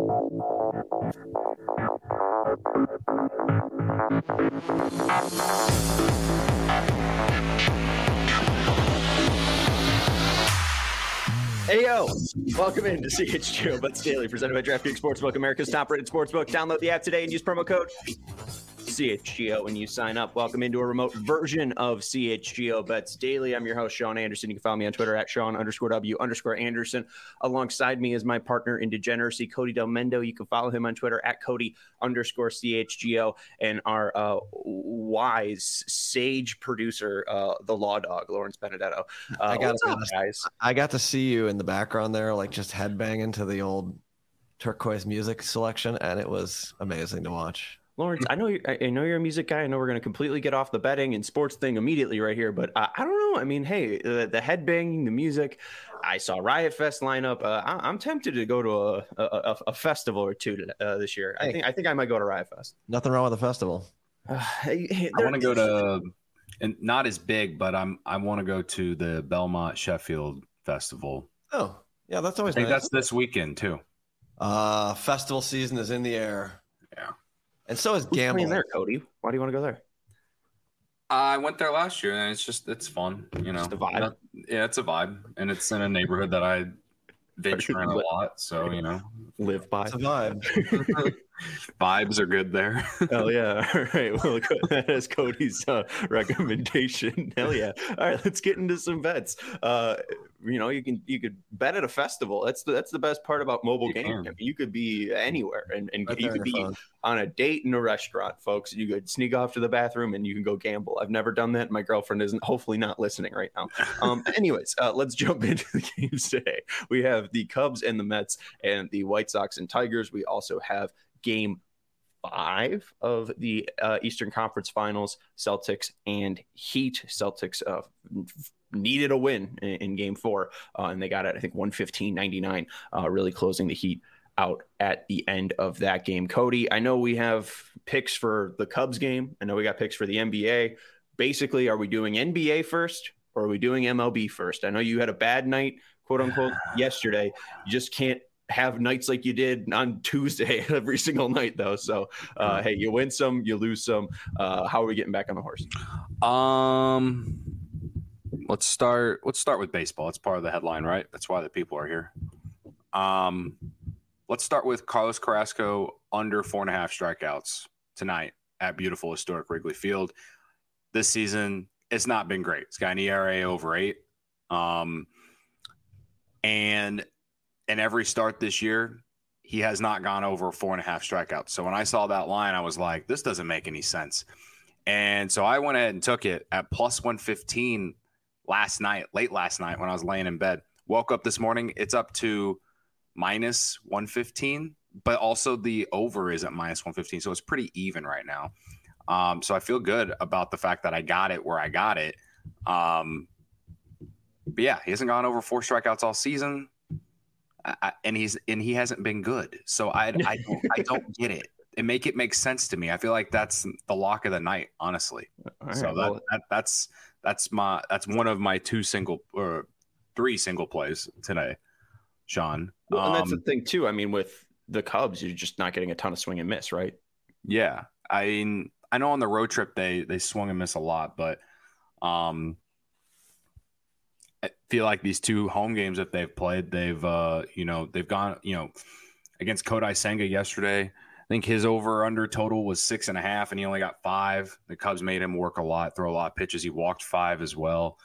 Hey, yo, welcome into CHGO Bets Daily, presented by DraftKings Sportsbook, America's top-rated sportsbook. Download the app today and use promo code CHGO when you sign up. Welcome into a remote version of CHGO Bets Daily. I'm your host, Sean Anderson. You can follow me on Twitter at Sean_W_Anderson. Alongside me is my partner in degeneracy, Cody Del Mendo. You can follow him on Twitter at Cody_CHGO. And our wise, sage producer, the Law Dog, Lawrence Benedetto. What's up, guys? I got to see you in the background there, like just headbanging to the old turquoise music selection, and it was amazing to watch. Lawrence, I know you're a music guy. I know we're going to completely get off the betting and sports thing immediately right here, but I don't know. I mean, hey, the headbanging, the music. I saw Riot Fest lineup. I'm tempted to go to a festival or two this year. Hey, I think I might go to Riot Fest. Nothing wrong with the festival. I want to go to, and not as big, but I want to go to the Belmont Sheffield Festival. Oh, yeah, that's always. I think nice. That's this weekend too. Festival season is in the air. Yeah. And so is gambling. There, Cody. Why do you want to go there? I went there last year, and it's fun. You know, just a vibe. Yeah, it's a vibe, and it's in a neighborhood that I venture in a lot. So live by. It's a vibe. Vibes are good there. Hell yeah! All right, well, that is Cody's recommendation. Hell yeah! All right, let's get into some bets. You could bet at a festival. That's the best part about mobile gaming. I mean, you could be anywhere, and right you could be on a date in a restaurant, folks. You could sneak off to the bathroom and you can go gamble. I've never done that. My girlfriend isn't, hopefully not listening right now. Anyways, let's jump into the games today. We have the Cubs and the Mets and the White Sox and Tigers. We also have Game 5 of the Eastern Conference Finals, Celtics and Heat. Celtics needed a win in Game 4, and they got it, I think, 115-99, really closing the Heat out at the end of that game. Cody, I know we have picks for the Cubs game. I know we got picks for the NBA. Basically, are we doing NBA first or are we doing MLB first? I know you had a bad night, quote unquote, yesterday. You just can't have nights like you did on Tuesday every single night, though. So, hey, you win some, you lose some. How are we getting back on the horse? Let's start with baseball. It's part of the headline, right? That's why the people are here. Let's start with Carlos Carrasco under 4.5 strikeouts tonight at beautiful historic Wrigley Field. This season, it's not been great. It's got an ERA over 8. And in every start this year, he has not gone over 4.5 strikeouts. So when I saw that line, I was like, this doesn't make any sense. And so I went ahead and took it at plus 115 late last night when I was laying in bed. Woke up this morning, it's up to minus 115, but also the over is at minus 115. So it's pretty even right now. So I feel good about the fact that I got it where I got it. But yeah, he hasn't gone over 4 strikeouts all season. And he hasn't been good. So I don't get it. And make it make sense to me. I feel like that's the lock of the night, honestly. Right, so that's one of my 3 single plays today, Sean. Well, and that's the thing too. I mean, with the Cubs, you're just not getting a ton of swing and miss, right? Yeah, I know on the road trip they swung and miss a lot, but I feel like these 2 home games that they've played, they've gone against Kodai Senga yesterday. I think his over/under total was 6.5, and he only got 5. The Cubs made him work a lot, throw a lot of pitches. He walked 5 as well.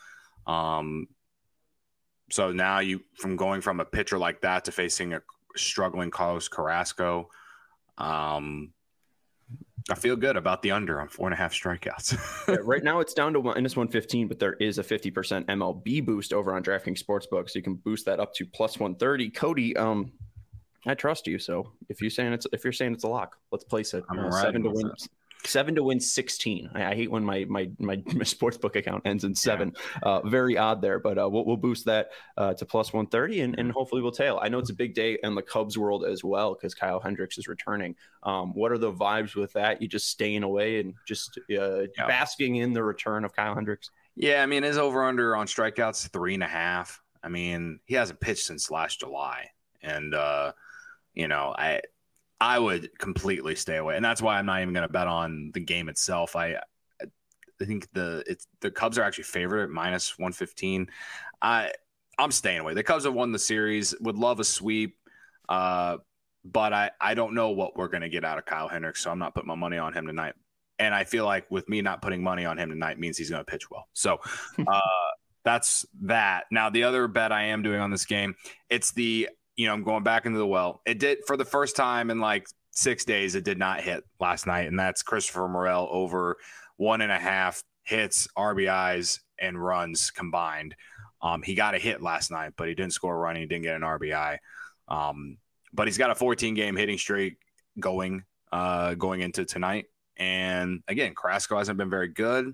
So now from going from a pitcher like that to facing a struggling Carlos Carrasco, I feel good about the under on 4.5 strikeouts. Yeah, right now it's down to minus 115, but there is a 50% MLB boost over on DraftKings Sportsbook, so you can boost that up to plus 130. Cody, I trust you. So if you're saying it's a lock, let's place it. 7 to win 16. I hate when my sportsbook account ends in 7. Yeah. Very odd there, but we'll boost that to plus 130 and hopefully we'll tail. I know it's a big day in the Cubs world as well because Kyle Hendricks is returning. What are the vibes with that? You just staying away and just basking in the return of Kyle Hendricks? Yeah, I mean, his over-under on strikeouts 3.5. I mean, he hasn't pitched since last July. And I would completely stay away, and that's why I'm not even going to bet on the game itself. I think the Cubs are actually favored at minus 115. I'm staying away. The Cubs have won the series. Would love a sweep, but I don't know what we're going to get out of Kyle Hendricks, so I'm not putting my money on him tonight. And I feel like with me not putting money on him tonight means he's going to pitch well. So that's that. Now, the other bet I am doing on this game, it's I'm going back into the well. It did for the first time in like 6 days. It did not hit last night, and that's Christopher Morel over 1.5 hits, RBIs, and runs combined. He got a hit last night, but he didn't score a run. He didn't get an RBI. But he's got a 14-game hitting streak going into tonight. And again, Carrasco hasn't been very good.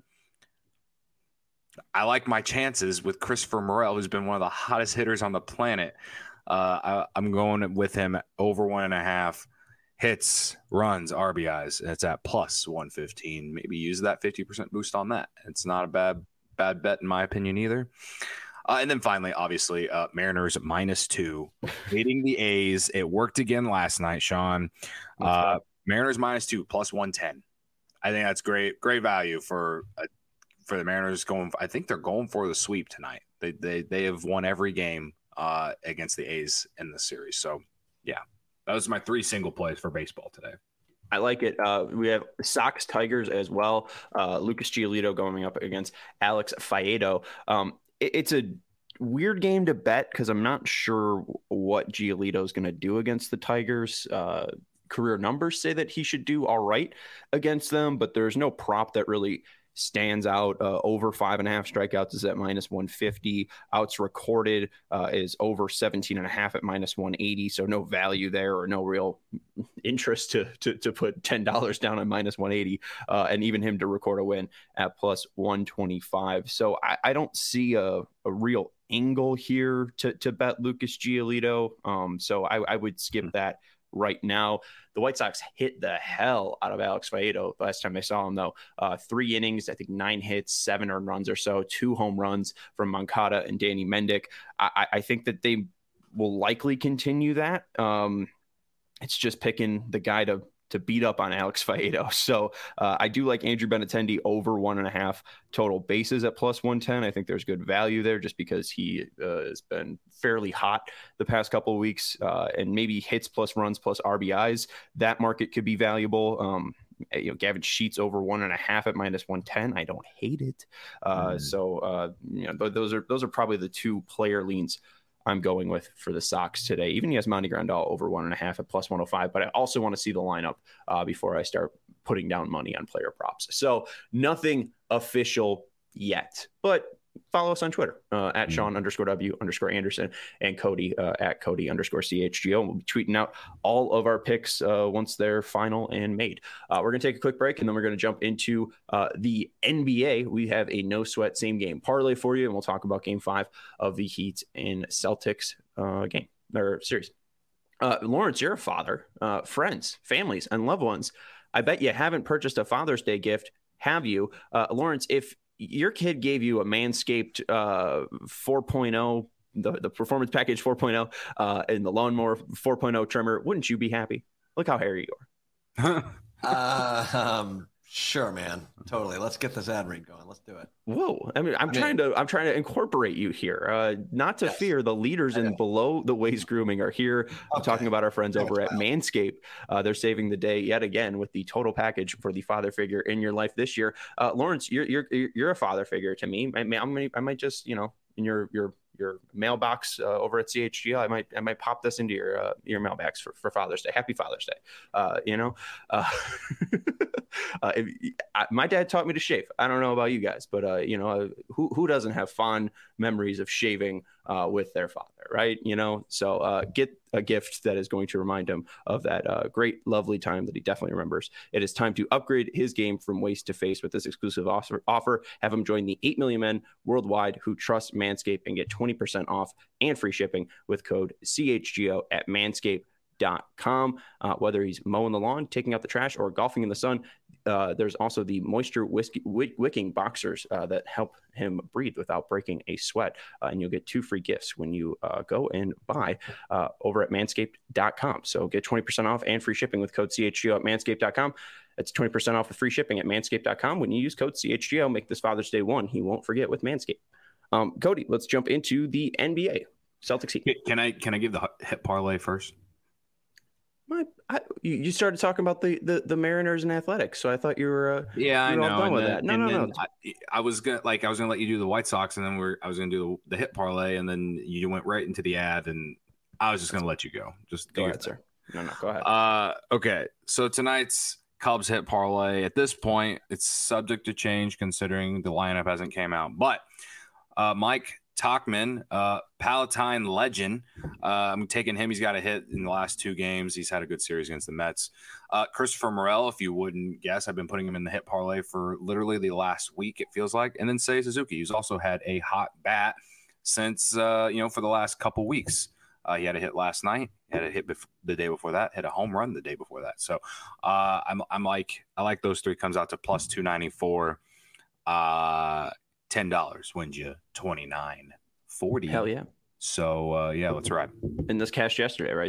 I like my chances with Christopher Morel, who's been one of the hottest hitters on the planet. I'm going with him over 1.5 hits, runs, RBIs. It's at plus 115. Maybe use that 50% boost on that. It's not a bad bet in my opinion either. And then finally, obviously, Mariners -2, beating the A's. It worked again last night, Sean. Mariners -2, plus 110. I think that's great value for the Mariners going. I think they're going for the sweep tonight. They have won every game against the A's in this series. So, yeah, that was my 3 single plays for baseball today. I like it. We have Sox Tigers as well. Lucas Giolito going up against Alex Faedo. It's a weird game to bet because I'm not sure what Giolito is going to do against the Tigers. Career numbers say that he should do all right against them, but there's no prop that really stands out. Over 5.5 strikeouts is at -150. Outs recorded is over 17.5 at -180. So no value there, or no real interest to put $10 down on -180. And even him to record a win at plus 125. So I don't see a real angle here to bet Lucas Giolito. So I would skip that right now. The White Sox hit the hell out of Alex Faedo last time I saw him, though. 3 innings, I think 9 hits, 7 earned runs or so, 2 home runs from Moncada and Danny Mendick. I think that they will likely continue that. It's just picking the guy to beat up on Alex Faedo. So I do like Andrew Benintendi over 1.5 total bases at plus 110. I think there's good value there just because he has been fairly hot the past couple of weeks, and maybe hits plus runs plus RBIs. That market could be valuable. Gavin Sheets over 1.5 at -110. I don't hate it. So those are probably the 2 player leans I'm going with for the Sox today. Even Yasmani Grandal over 1.5 at plus 105, but I also want to see the lineup before I start putting down money on player props. So nothing official yet, but follow us on Twitter at Sean_W_Anderson and Cody at Cody_CHGO. And we'll be tweeting out all of our picks once they're final and made. We're going to take a quick break, and then we're going to jump into the NBA. We have a no sweat same game parlay for you, and we'll talk about game 5 of the Heat and Celtics game or series. Lawrence, you're a father, friends, families, and loved ones. I bet you haven't purchased a Father's Day gift, have you? Lawrence, if your kid gave you a Manscaped 4.0, the Performance Package 4.0, and the Lawnmower 4.0 trimmer, wouldn't you be happy? Look how hairy you are. Sure, man. Totally. Let's get this ad read going. Let's do it. Whoa. I mean, I'm trying to incorporate you here. Not to fear, the leaders in below the waist grooming are here. I'm talking about our friends over at Manscaped. They're saving the day yet again with the total package for the father figure in your life this year. Lawrence, you're a father figure to me. I might just, in your mailbox over at CHGO, I might pop this into your mailbox for Father's Day. Happy Father's Day. My dad taught me to shave. I don't know about you guys, but who doesn't have fond memories of shaving with their father, right? So get a gift that is going to remind him of that great, lovely time that he definitely remembers. It is time to upgrade his game from waist to face with this exclusive offer. Have him join the 8 million men worldwide who trust Manscaped and get 20% off and free shipping with code CHGO at Manscaped.com. Whether he's mowing the lawn, taking out the trash, or golfing in the sun, there's also the moisture wicking boxers that help him breathe without breaking a sweat. And you'll get 2 free gifts when you go and buy over at manscaped.com. So get 20% off and free shipping with code CHGO at manscaped.com. That's 20% off with free shipping at manscaped.com. When you use code CHGO, make this Father's Day one he won't forget with Manscaped. Cody, let's jump into the NBA. Celtics Heat. Can I give the hit parlay first? You started talking about the Mariners and Athletics, so I thought you were I know. all done with that. No. I was gonna let you do the White Sox, and then I was gonna do the hit parlay, and then you went right into the ad, and I was just gonna let you go. Just go ahead, sir. No, go ahead. Okay, so tonight's Cubs hit parlay. At this point, it's subject to change considering the lineup hasn't came out, but Mike Tauchman, Palatine legend. I'm taking him. He's got a hit in the last 2 games. He's had a good series against the Mets. Christopher Morel, if you wouldn't guess, I've been putting him in the hit parlay for literally the last week, it feels like. And then Seiya Suzuki, who's also had a hot bat since, for the last couple weeks. He had a hit last night, had a hit the day before that, hit a home run the day before that. So I like those 3. Comes out to plus 294. $10 wins you $29.40. Hell yeah. So let's ride. And this cashed yesterday, right?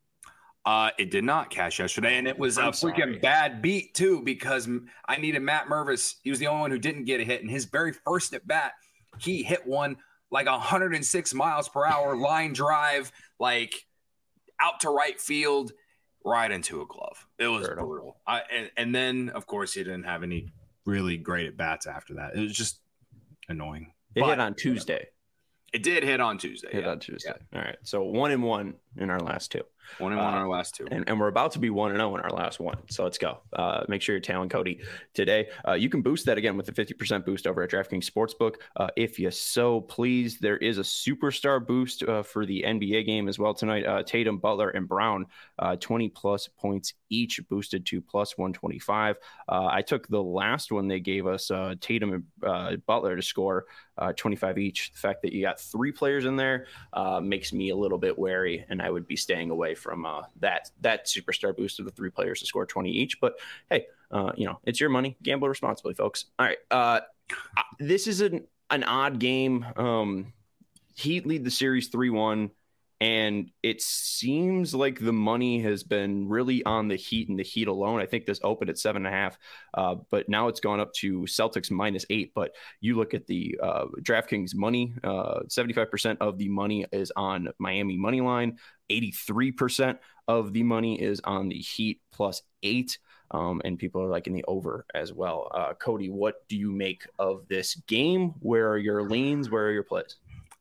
It did not cash yesterday, and it was a freaking bad beat too, because I needed Matt Mervis. He was the only one who didn't get a hit, and his very first at bat, he hit one like 106 miles per hour line drive, like out to right field, right into a glove. It was brutal. And then of course he didn't have any really great at bats after that. It was just annoying. It hit on Tuesday. It did hit on Tuesday. On Tuesday. Yeah. All right. So 1-1 in our last 2. 1-1 in our last 2. And we're about to be 1-0 in our last 1. So let's go. Make sure you're tailing Cody today. You can boost that again with the 50% boost over at DraftKings Sportsbook. If you so please, there is a superstar boost for the NBA game as well tonight. Tatum, Butler, and Brown, 20 plus points each, boosted to plus 125. I took the last one they gave us, Tatum and Butler, to score 25 each. The fact that you got 3 players in there makes me a little bit wary, and I would be staying away from that superstar boost of the 3 players to score 20 each. But hey, it's your money. Gamble responsibly, folks. All right. This is an odd game. Heat lead the series 3-1. And it seems like the money has been really on the Heat and the Heat alone. I think this opened at 7.5, but now it's gone up to Celtics -8. But you look at the DraftKings money, 75% of the money is on Miami money line. 83% of the money is on the Heat +8. And people are liking the over as well. Cody, what do you make of this game? Where are your leans? Where are your plays?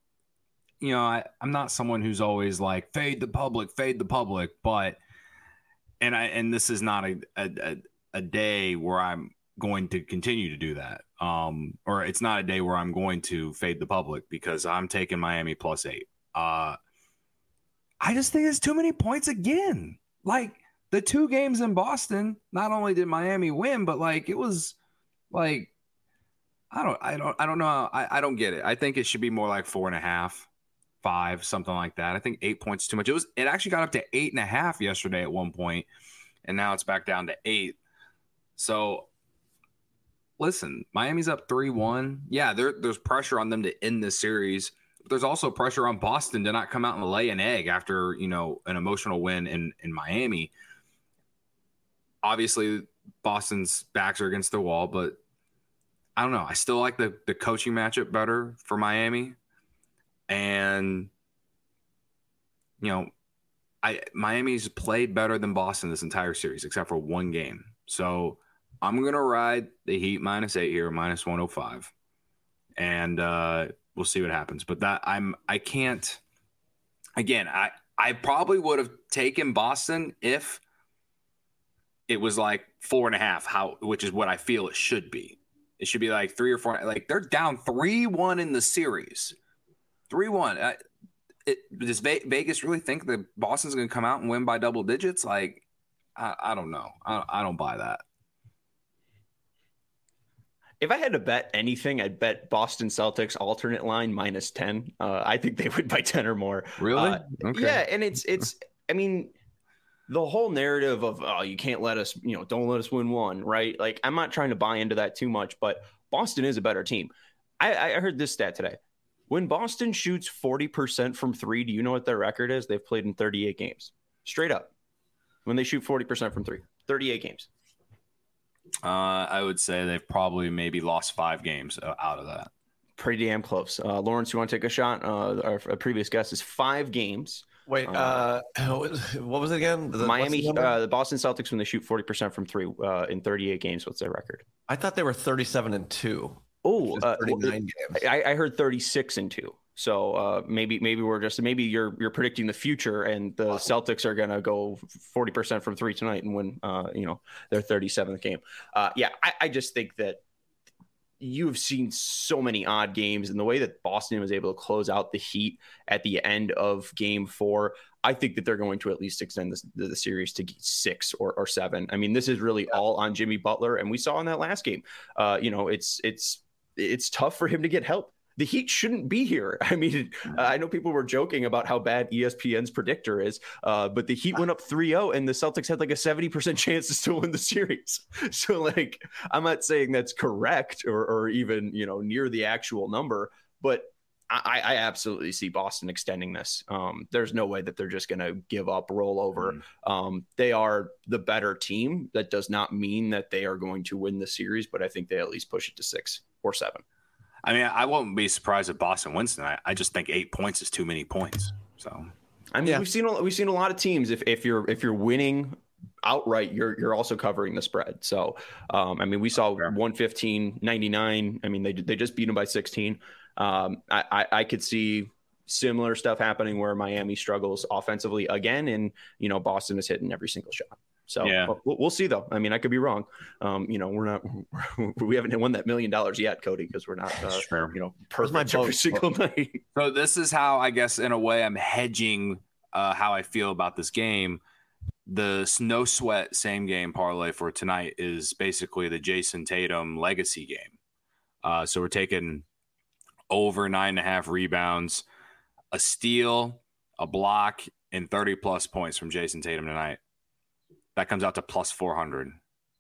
I'm not someone who's always like fade the public, but and this is not a day where I'm going to continue to do that. Or it's not a day where I'm going to fade the public because I'm taking Miami +8. I just think it's too many points again. Like the 2 games in Boston, not only did Miami win, but like it was like I don't know. I don't get it. I think it should be more like 4.5. 5, something like that. I think 8 points too much. It actually got up to 8.5 yesterday at one point, and now it's back down to 8. So listen, Miami's up 3-1. Yeah, there's pressure on them to end this series, but there's also pressure on Boston to not come out and lay an egg after an emotional win in Miami. Obviously, Boston's backs are against the wall, but I don't know. I still like the coaching matchup better for Miami. And, Miami's played better than Boston this entire series, except for 1 game. So I'm going to ride the Heat -8 here, -105. And we'll see what happens. But I can't, again, I probably would have taken Boston if it was like 4.5, which is what I feel it should be. It should be like 3 or 4. Like they're down 3-1 in the series. 3-1. Does Vegas really think that Boston's going to come out and win by double digits? Like, I don't know. I don't buy that. If I had to bet anything, I'd bet Boston Celtics alternate line -10. I think they would by 10 or more. Really? Okay. Yeah, and it's. I mean, the whole narrative of, oh, you can't let us, don't let us win one, right? Like, I'm not trying to buy into that too much, but Boston is a better team. I heard this stat today. When Boston shoots 40% from three, do you know what their record is? They've played in 38 games. Straight up. When they shoot 40% from three, 38 games. I would say they've probably maybe lost 5 games out of that. Pretty damn close. Lawrence, you want to take a shot? Our previous guest is 5 games. Wait, what was it again? The Boston Celtics, when they shoot 40% from three in 38 games, what's their record? I thought they were 37-2. Oh, 39 games. I heard 36-2. So maybe you're predicting the future, and the Celtics are gonna go 40% from three tonight and win their 37th game. I just think that you've seen so many odd games, and the way that Boston was able to close out the Heat at the end of Game 4, I think that they're going to at least extend the series to 6 or 7. I mean, this is really all on Jimmy Butler, and we saw in that last game. It's tough for him to get help. The Heat shouldn't be here. I mean, I know people were joking about how bad ESPN's predictor is, but the Heat went up 3-0, and the Celtics had like a 70% chance to still win the series. So, like, I'm not saying that's correct or even, near the actual number, but I absolutely see Boston extending this. There's no way that they're just going to give up, roll over. They are the better team. That does not mean that they are going to win the series, but I think they at least push it to 6 or 7. I mean, I won't be surprised if Boston wins tonight. I just think 8 points is too many points. So, I mean, we've seen a lot of teams. If you're winning outright, you're also covering the spread. So, I mean, we saw 115-99. I mean, they just beat them by 16. I could see similar stuff happening where Miami struggles offensively again, and Boston is hitting every single shot. So we'll see, though. I mean, I could be wrong. We haven't won that $1 million yet, Cody, because we're not, perfect every single night. So this is how, I guess, in a way, I'm hedging how I feel about this game. The no sweat same game parlay for tonight is basically the Jason Tatum legacy game. So we're taking over 9.5 rebounds, a steal, a block, and 30-plus points from Jason Tatum tonight. That comes out to plus 400.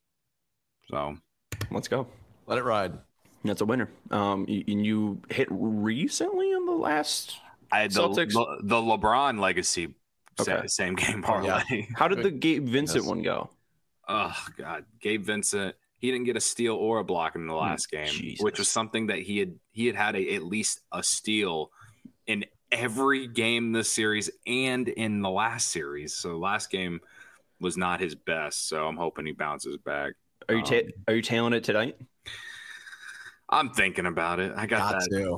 So let's go. Let it ride. That's a winner. You hit recently on the last Celtics? The LeBron legacy same game parlay. Yeah. How did the Gabe Vincent one go? Oh, God. Gabe Vincent, he didn't get a steal or a block in the last game, which was something that he had at least a steal in every game this series and in the last series. So last game was not his best, so I'm hoping he bounces back. Are you tailing it tonight? I'm thinking about it. I got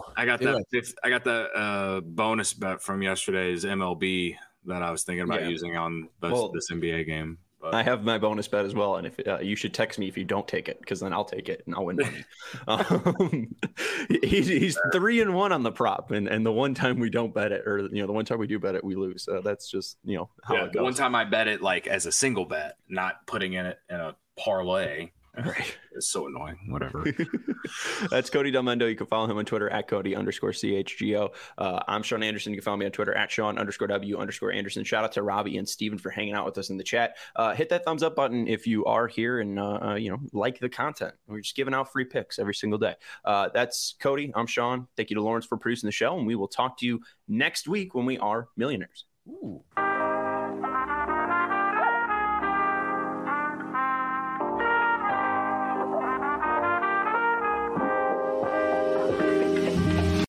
that bonus bet from yesterday's MLB that I was thinking about using on this NBA game. But I have my bonus bet as well, and if you should text me if you don't take it, because then I'll take it and I'll win money. He's 3-1 on the prop, and the one time we don't bet it, or the one time we do bet it, we lose. That's just how it goes. The one time I bet it like as a single bet, not putting in a parlay. Right. It's so annoying. Whatever. That's Cody Delmendo. You can follow him on Twitter at Cody_CHGO. I'm Sean Anderson. You can follow me on Twitter at Sean_W_Anderson. Shout out to Robbie and Steven for hanging out with us in the chat. Hit that thumbs up button if you are here and like the content. We're just giving out free picks every single day. That's Cody. I'm Sean. Thank you to Lawrence for producing the show, and we will talk to you next week when we are millionaires. Ooh.